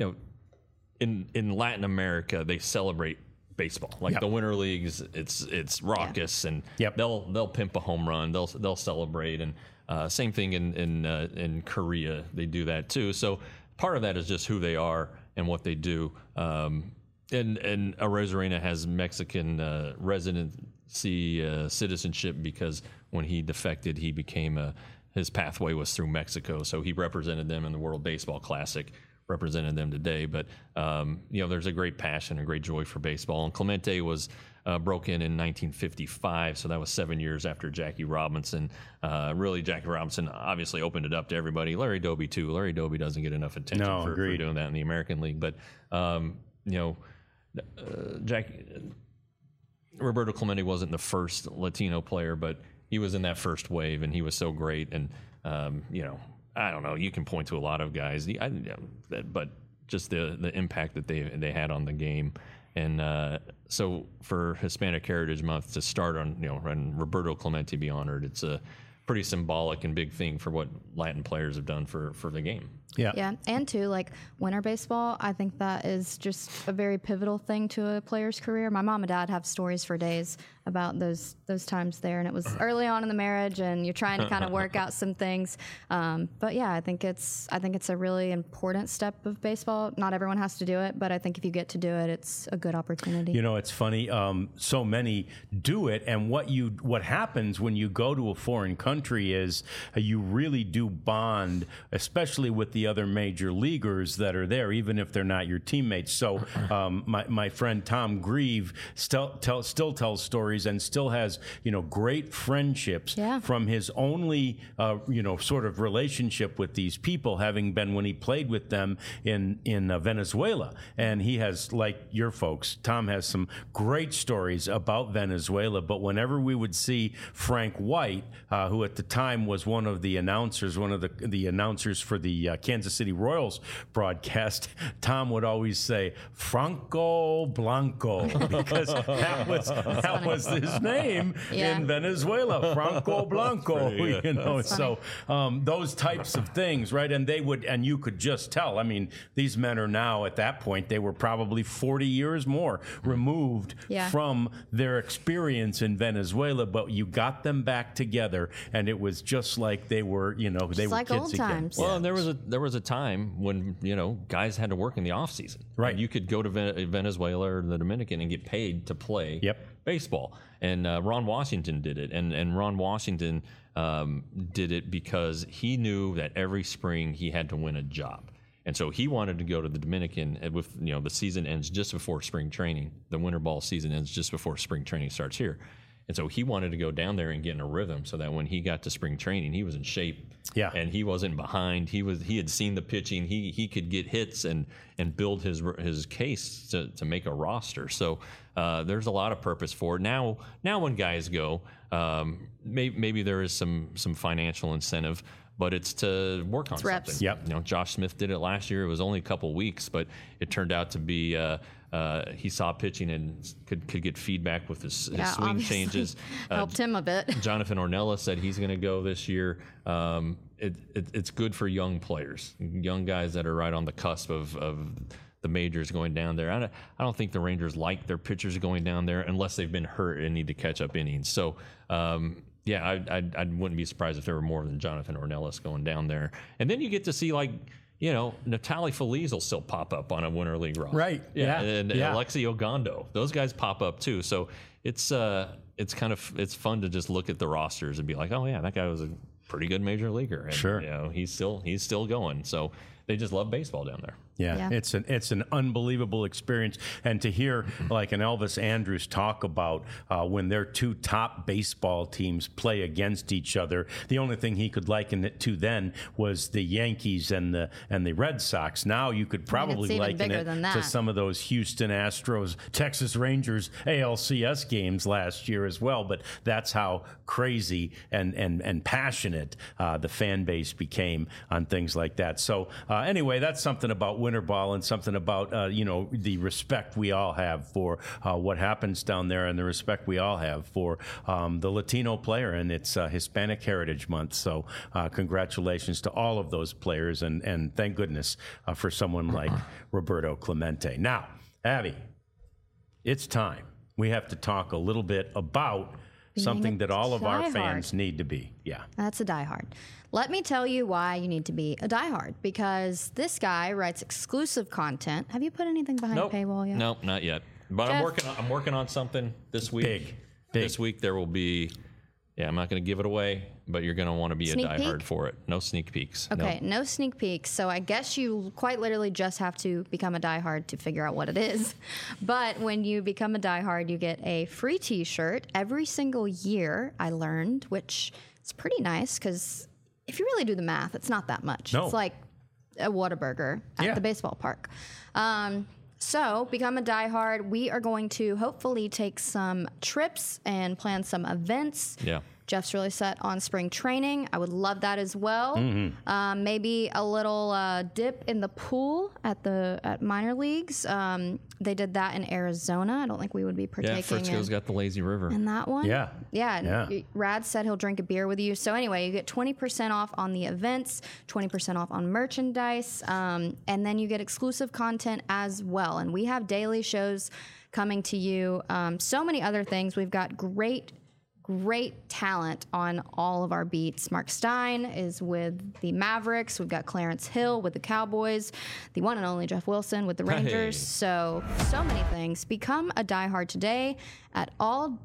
in Latin America, they celebrate baseball. Like the Winter Leagues, it's raucous, and they'll pimp a home run, they'll celebrate, and same thing in Korea, they do that too. So part of that is just who they are and what they do. And Arozarena has Mexican residency citizenship because when he defected, he became his pathway was through Mexico. So he represented them in the World Baseball Classic, represented them today. But there's a great passion, a great joy for baseball. And Clemente was broke in 1955, so that was 7 years after Jackie Robinson. Really, Jackie Robinson obviously opened it up to everybody. Larry Doby too. Larry Doby doesn't get enough attention for doing that in the American League, but Roberto Clemente wasn't the first Latino player, but he was in that first wave, and he was so great. And I don't know, you can point to a lot of guys, but just the impact that they had on the game. And so for Hispanic Heritage Month to start on, and Roberto Clemente be honored, it's a pretty symbolic and big thing for what Latin players have done for the game. Yeah. And too, like winter baseball, I think that is just a very pivotal thing to a player's career. My mom and dad have stories for days about those times there, and it was early on in the marriage, and you're trying to kind of work out some things. But yeah, I think it's a really important step of baseball. Not everyone has to do it, but I think if you get to do it, it's a good opportunity. It's funny. So many do it, and what happens when you go to a foreign country is you really do bond, especially with the other major leaguers that are there, even if they're not your teammates. So my friend Tom Grieve still tells stories and still has great friendships from his only sort of relationship with these people having been when he played with them in Venezuela. And he has, like your folks, Tom has some great stories about Venezuela. But whenever we would see Frank White, who at the time was one of the announcers for the Kansas City Royals broadcast, Tom would always say Franco Blanco, because that was his name in Venezuela, Franco Blanco. So those types of things, right? And you could just tell. I mean, these men are now at that point, they were probably 40 years more removed from their experience in Venezuela, but you got them back together, and it was just like they were, they were like kids old again. times. Well, and there was a time when, guys had to work in the off season. Right. And you could go to Venezuela or the Dominican and get paid to play baseball. And Ron Washington did it. And Ron Washington did it because he knew that every spring he had to win a job. And so he wanted to go to the Dominican with, the season ends just before spring training. The winter ball season ends just before spring training starts here. And so he wanted to go down there and get in a rhythm so that when he got to spring training, he was in shape. Yeah. And he wasn't behind. He had seen the pitching. He could get hits and build his case to make a roster. So there's a lot of purpose for it. Now when guys go, maybe there is some financial incentive, but it's to work on reps. something. Yep. Josh Smith did it last year. It was only a couple weeks, but it turned out to be he saw pitching and could get feedback with his swing changes. Helped him a bit. Jonathan Ornelas said he's going to go this year. It's good for young players, young guys that are right on the cusp of the majors going down there. I don't think the Rangers like their pitchers going down there unless they've been hurt and need to catch up innings. So, I wouldn't be surprised if there were more than Jonathan Ornelas going down there. And then you get to see Natali Feliz will still pop up on a Winter League roster. Right. And Alexi Ogando. Those guys pop up too. So it's fun to just look at the rosters and be like, oh yeah, that guy was a pretty good major leaguer. And, sure. He's still going. So they just love baseball down there. Yeah, it's an unbelievable experience, and to hear like an Elvis Andrus talk about when their two top baseball teams play against each other, the only thing he could liken it to then was the Yankees and the Red Sox. Now you could probably liken it to some of those Houston Astros, Texas Rangers ALCS games last year as well. But that's how crazy and passionate the fan base became on things like that. So anyway, that's something about winter ball and something about the respect we all have for what happens down there, and the respect we all have for the Latino player, and it's Hispanic Heritage Month. So congratulations to all of those players, and thank goodness for someone like Roberto Clemente. Now, Abby, it's time. We have to talk a little bit about something that all of our fans need to be. Yeah. That's a diehard. Let me tell you why you need to be a diehard, because this guy writes exclusive content. Have you put anything behind a paywall yet? Nope, not yet. But Jeff, I'm working on something this week. Big. This week there will be, I'm not going to give it away, but you're going to want to be a diehard for it. No sneak peeks. Okay, no sneak peeks. So I guess you quite literally just have to become a diehard to figure out what it is. But when you become a diehard, you get a free T-shirt every single year, I learned, which is pretty nice because if you really do the math, it's not that much. No. It's like a Whataburger at the baseball park. So become a diehard. We are going to hopefully take some trips and plan some events. Yeah. Jeff's really set on spring training. I would love that as well. Mm-hmm. Maybe a little dip in the pool at minor leagues. They did that in Arizona. I don't think we would be partaking. Yeah, Frisco's got the lazy river. In that one? Yeah. Rad said he'll drink a beer with you. So anyway, you get 20% off on the events, 20% off on merchandise, and then you get exclusive content as well. And we have daily shows coming to you. So many other things. We've got great talent on all of our beats. Mark Stein is with the Mavericks. We've got Clarence Hill with the Cowboys, the one and only Jeff Wilson with the Rangers. So many things. Become a diehard today at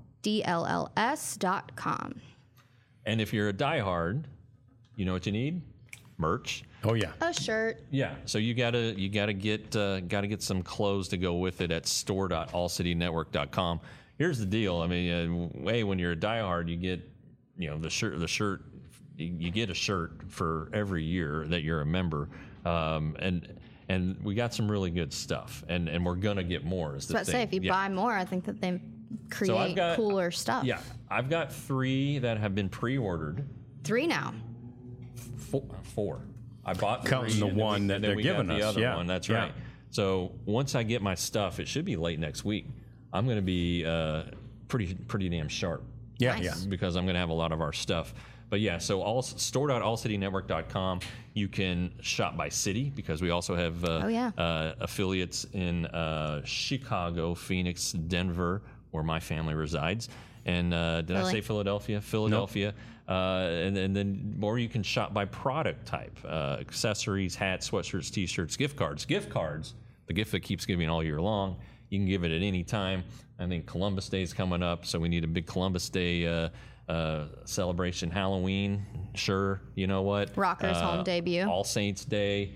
alldlls.com. And if you're a diehard, you know what you need? Merch. Oh yeah, a shirt. Yeah, so you gotta get some clothes to go with it at store.allcitynetwork.com. Here's the deal. I mean, when you're a diehard, you get, the shirt. You get a shirt for every year that you're a member, and we got some really good stuff, and we're gonna get more. Is the thing. Say if you buy more, I think that they create cooler stuff. Yeah, I've got 3 that have been pre-ordered. 3 now. 4. I bought 3, counting the one that they're giving us. The other one. That's right. So once I get my stuff, it should be late next week. I'm going to be pretty damn sharp. Nice. Because I'm going to have a lot of our stuff. But yeah, so store.allcitynetwork.com. You can shop by city because we also have affiliates in Chicago, Phoenix, Denver, where my family resides. And did I say Philadelphia? Philadelphia. Nope. And then more you can shop by product type. Accessories, hats, sweatshirts, T-shirts, gift cards. Gift cards, the gift that keeps giving all year long. You can give it at any time. I think Columbus Day is coming up, so we need a big Columbus Day celebration. Halloween, sure. You know what? Rockers home debut. All Saints Day,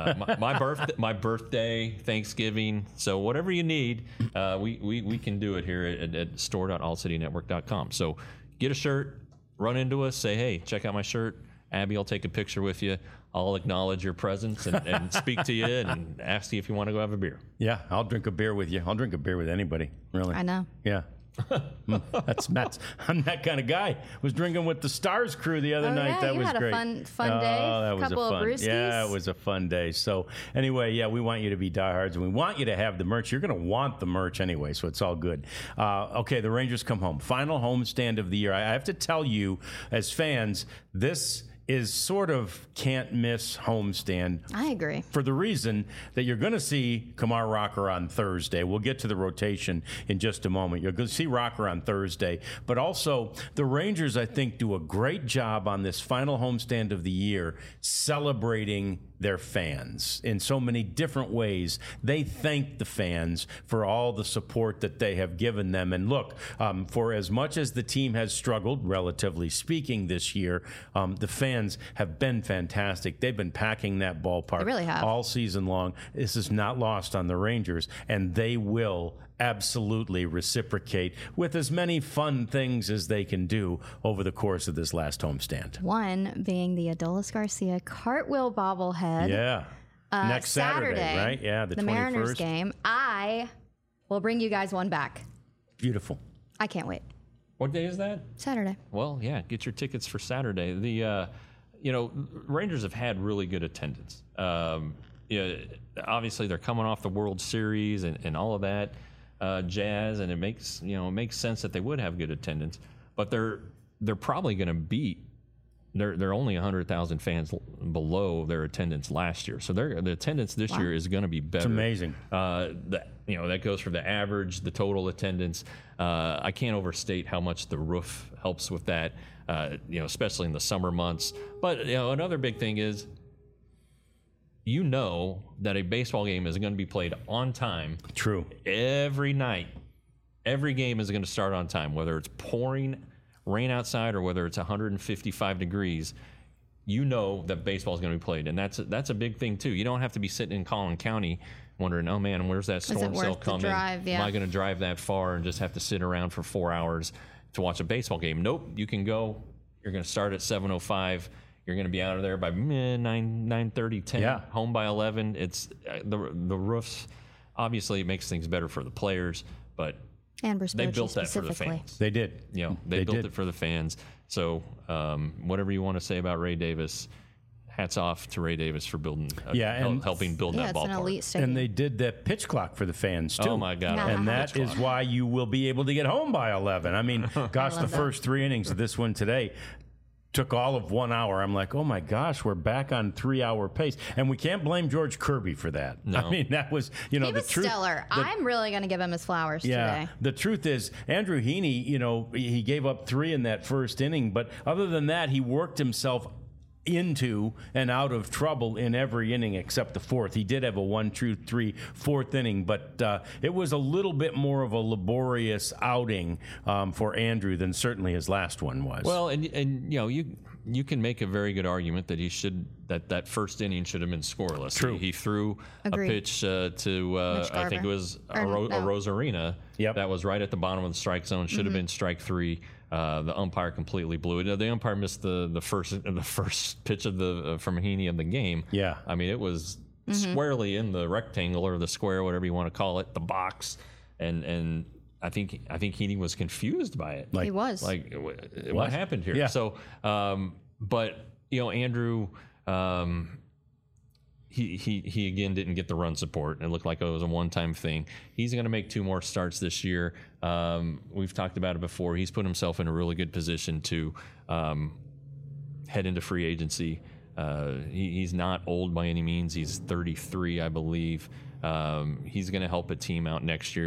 my birthday, Thanksgiving. So whatever you need, we can do it here at store.allcitynetwork.com. So get a shirt, run into us, say, hey, check out my shirt. Abby will take a picture with you. I'll acknowledge your presence and speak to you and ask you if you want to go have a beer. Yeah, I'll drink a beer with you. I'll drink a beer with anybody, really. I know. Yeah. That's I'm that kind of guy. Was drinking with the Stars crew the other night. That was great. Had a fun day. That was couple of brewskis. Yeah, it was a fun day. So anyway, yeah, we want you to be diehards, and we want you to have the merch. You're going to want the merch anyway, so it's all good. Okay, the Rangers come home. Final homestand of the year. I have to tell you, as fans, this is sort of can't miss homestand. I agree. For the reason that you're going to see Kumar Rocker on Thursday. We'll get to the rotation in just a moment. You're going to see Rocker on Thursday. But also, the Rangers, I think, do a great job on this final homestand of the year celebrating their fans in so many different ways. They thank the fans for all the support that they have given them. And look, for as much as the team has struggled, relatively speaking, this year, the fans have been fantastic. They've been packing that ballpark they really have. all season long. This is not lost on the Rangers, and they will absolutely reciprocate with as many fun things as they can do over the course of this last homestand. One being the Adolis Garcia cartwheel bobblehead. Yeah. Next Saturday, right? Yeah, the 21st. Mariners game. I will bring you guys one back. Beautiful. I can't wait. What day is that? Saturday. Well, yeah, get your tickets for Saturday. The Rangers have had really good attendance. Obviously they're coming off the World Series and all of that jazz, and it makes sense that they would have good attendance. But they're probably going to beat. They're only 100,000 fans below their attendance last year, so the attendance this year is going to be better. It's amazing. That goes for the average, the total attendance. I can't overstate how much the roof helps with that. Especially in the summer months. But another big thing is, that a baseball game is going to be played on time. True. Every night, every game is going to start on time, whether it's pouring rain outside or whether it's 155 degrees. That baseball is going to be played, and that's a big thing too. You don't have to be sitting in Collin County wondering, oh man, where's that storm cell coming? Am I going to drive that far and just have to sit around for 4 hours to watch a baseball game? Nope. You can go. You're going to start at 7:05. You're going to be out of there by 9:30, 10. Yeah. Home by 11. It's the roofs. Obviously, it makes things better for the players, but and Bruce they Bochy built that for the fans. They did. They built it for the fans. So whatever you want to say about Ray Davis, hats off to Ray Davis for building, helping build that ballpark. An elite stadium. And they did that pitch clock for the fans too. Oh my God! And that is why you will be able to get home by 11. I mean, gosh, the first 3 innings of this one today took all of 1 hour. I'm like, oh my gosh, we're back on 3-hour pace, and we can't blame George Kirby for that. No. I mean, that was he was stellar. I'm really going to give him his flowers today. The truth is, Andrew Heaney, he gave up 3 in that first inning, but other than that, he worked himself into and out of trouble in every inning except the fourth. He did have a 1-2-3 fourth inning, but it was a little bit more of a laborious outing for Andrew than certainly his last one was. Well, and you can make a very good argument that that first inning should have been scoreless. True. He threw Agreed. a pitch to I think it was a Rosarina. Yep. That was right at the bottom of the strike zone. Should have been strike 3. The umpire completely blew it. The umpire missed the first pitch of from Heaney of the game. Yeah. I mean, it was squarely in the rectangle or the square, whatever you want to call it, the box, and I think Heaney was confused by it. He was like, what happened here? Yeah. So, but Andrew. He again didn't get the run support. It looked like it was a one-time thing. He's going to make 2 more starts this year. We've talked about it before. He's put himself in a really good position to head into free agency. He's not old by any means. He's 33, I believe. He's going to help a team out next year.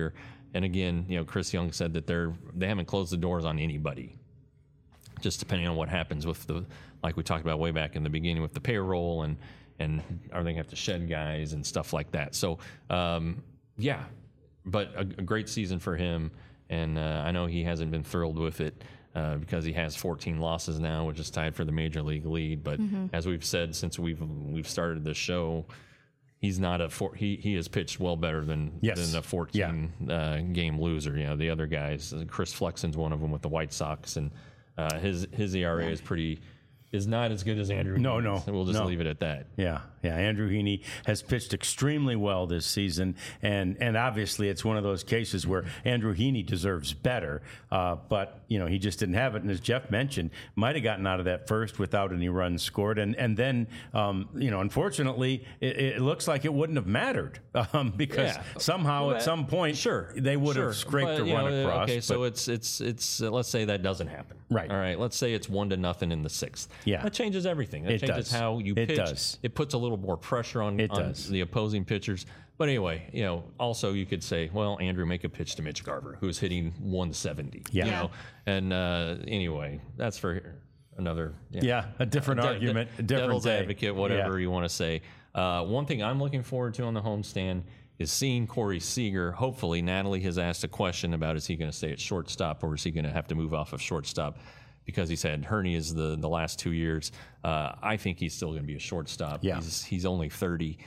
And again, Chris Young said that they haven't closed the doors on anybody. Just depending on what happens with like we talked about way back in the beginning with the payroll and are they going to have to shed guys and stuff like that. So, yeah, but a great season for him. And I know he hasn't been thrilled with it because he has 14 losses now, which is tied for the major league lead. But as we've said since we've started this show, he's not he has pitched well better than a 14 game loser. The other guys, Chris Flexen's one of them with the White Sox, and his ERA is not as good as Andrew. No. So we'll just leave it at that. Yeah. Andrew Heaney has pitched extremely well this season, and obviously it's one of those cases where Andrew Heaney deserves better, but he just didn't have it. And as Jeff mentioned, might have gotten out of that first without any runs scored, and then unfortunately it looks like it wouldn't have mattered because somehow at some point they would have scraped a run across. Okay, so it's let's say that doesn't happen. Right. All right. Let's say it's 1-0 in the sixth. Yeah. That changes everything. That changes how you pitch. It does. It puts a little more pressure on the opposing pitchers. But anyway, also you could say, well, Andrew, make a pitch to Mitch Garver, who's hitting 170. Yeah. And anyway, that's for another. A different argument. A different devil's day. advocate, whatever you want to say. One thing I'm looking forward to on the homestand is seeing Corey Seager. Hopefully, Natalie has asked a question about is he going to stay at shortstop or is he going to have to move off of shortstop? Because he's had hernias the last 2 years. I think he's still going to be a shortstop. Yeah. He's only 30.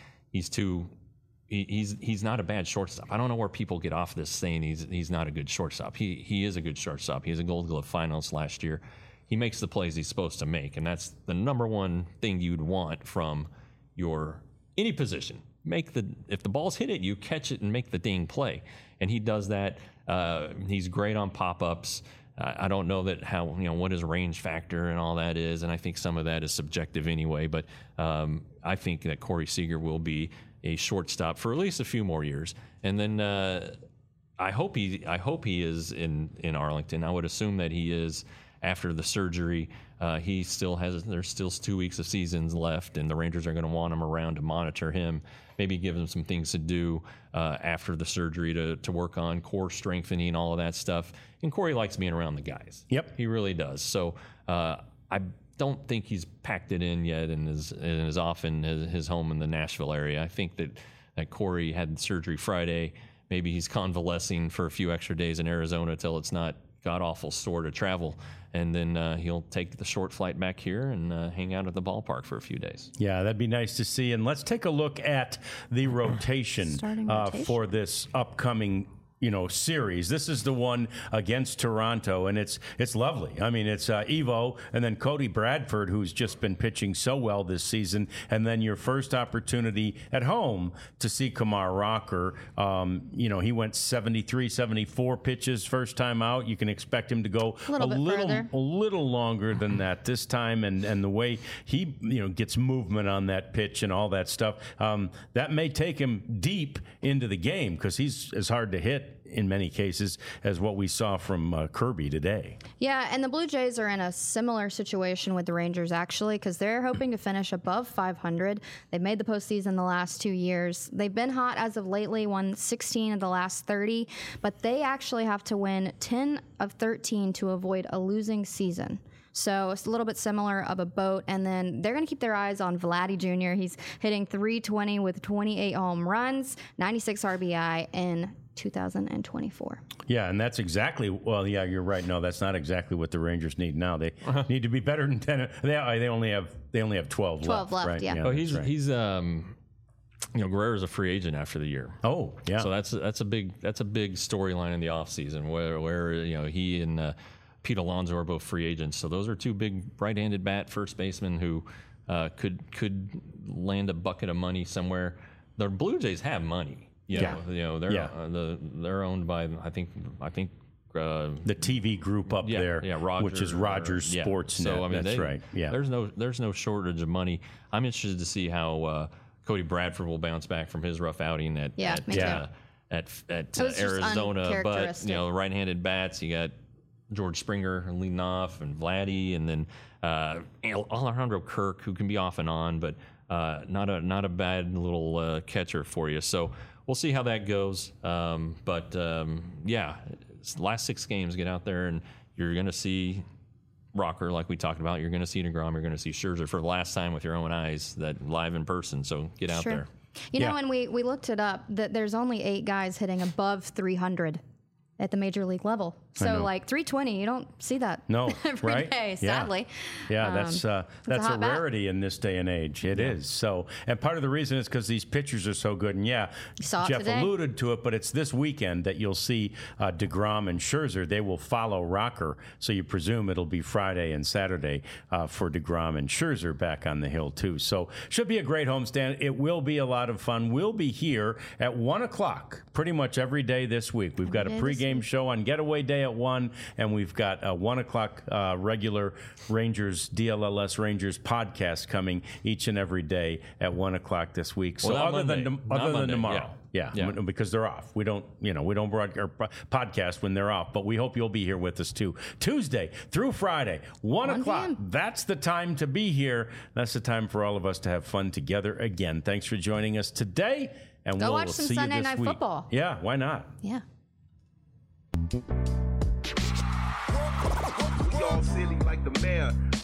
He's not a bad shortstop. I don't know where people get off this saying he's not a good shortstop. He is a good shortstop. He has a Gold Glove finalist last year. He makes the plays he's supposed to make, and that's the number one thing you'd want from any position. If the ball's hit at you, catch it and make the dang play. And he does that. He's great on pop-ups. I don't know what his range factor and all that is, and I think some of that is subjective anyway. But I think that Corey Seager will be a shortstop for at least a few more years, and then I hope he is in Arlington. I would assume that he is after the surgery. There's still 2 weeks of seasons left, and the Rangers are going to want him around to monitor him. Maybe give him some things to do after the surgery to work on core strengthening, all of that stuff. And Corey likes being around the guys. Yep. He really does. So I don't think he's packed it in yet and is off in his home in the Nashville area. I think that Corey had surgery Friday. Maybe he's convalescing for a few extra days in Arizona till it's not god-awful sore to travel. And then he'll take the short flight back here and hang out at the ballpark for a few days. Yeah, that'd be nice to see. And let's take a look at the rotation for this upcoming series. This is the one against Toronto, and it's lovely. I mean, it's Evo and then Cody Bradford, who's just been pitching so well this season, and then your first opportunity at home to see Kumar Rocker. He went 73, 74 pitches first time out. You can expect him to go a little longer than that this time, and the way he gets movement on that pitch and all that stuff, that may take him deep into the game because he's as hard to hit in many cases as what we saw from Kirby today. Yeah, and the Blue Jays are in a similar situation with the Rangers, actually, because they're hoping to finish above 500. They've made the postseason the last 2 years. They've been hot as of lately, won 16 of the last 30, but they actually have to win 10 of 13 to avoid a losing season. So it's a little bit similar of a boat. And then they're going to keep their eyes on Vladdy Jr. He's hitting .320 with 28 home runs, 96 RBI in 2024. Yeah, and that's exactly, you're right. No, that's not exactly what the Rangers need now. They need to be better than 10. They only have 12 left. Right? Yeah. Oh, he's Guerrero's a free agent after the year. Oh, yeah. So that's a big storyline in the offseason where he and Pete Alonso are both free agents. So those are two big right-handed bat first basemen who could land a bucket of money somewhere. The Blue Jays have money. They're owned by I think the TV group up there, which is Rogers Sportsnet. So that's right. Yeah, there's no shortage of money. I'm interested to see how Cody Bradford will bounce back from his rough outing at Arizona. But right-handed bats, you got George Springer leading off, and Vladdy, and then Alejandro Kirk, who can be off and on, but not a bad little catcher for you. So we'll see how that goes. Yeah, last 6 games, get out there and you're going to see Rocker, like we talked about. You're going to see DeGrom. You're going to see Scherzer for the last time with your own eyes, that live in person. So get out there. You know, and we looked it up, that there's only 8 guys hitting above 300 at the major league level. So like 320, you don't see that every day, sadly. Yeah, that's a rarity in this day and age. It is. So, and part of the reason is because these pitchers are so good. And Jeff alluded to it, but it's this weekend that you'll see DeGrom and Scherzer. They will follow Rocker. So you presume it'll be Friday and Saturday for DeGrom and Scherzer back on the hill too. So should be a great homestand. It will be a lot of fun. We'll be here at 1 o'clock pretty much every day this week. We've got a pregame show on Getaway Day at 1, and we've got a 1 o'clock regular Rangers, DLLS Rangers podcast coming each and every day at 1 o'clock this week. So other than tomorrow. Yeah, because they're off. We don't podcast when they're off, but we hope you'll be here with us too. Tuesday through Friday, 1 o'clock. That's the time to be here. That's the time for all of us to have fun together again. Thanks for joining us today, and we'll watch some see Sunday you this Night week. Football. Yeah, why not? Yeah. We all silly like the mayor.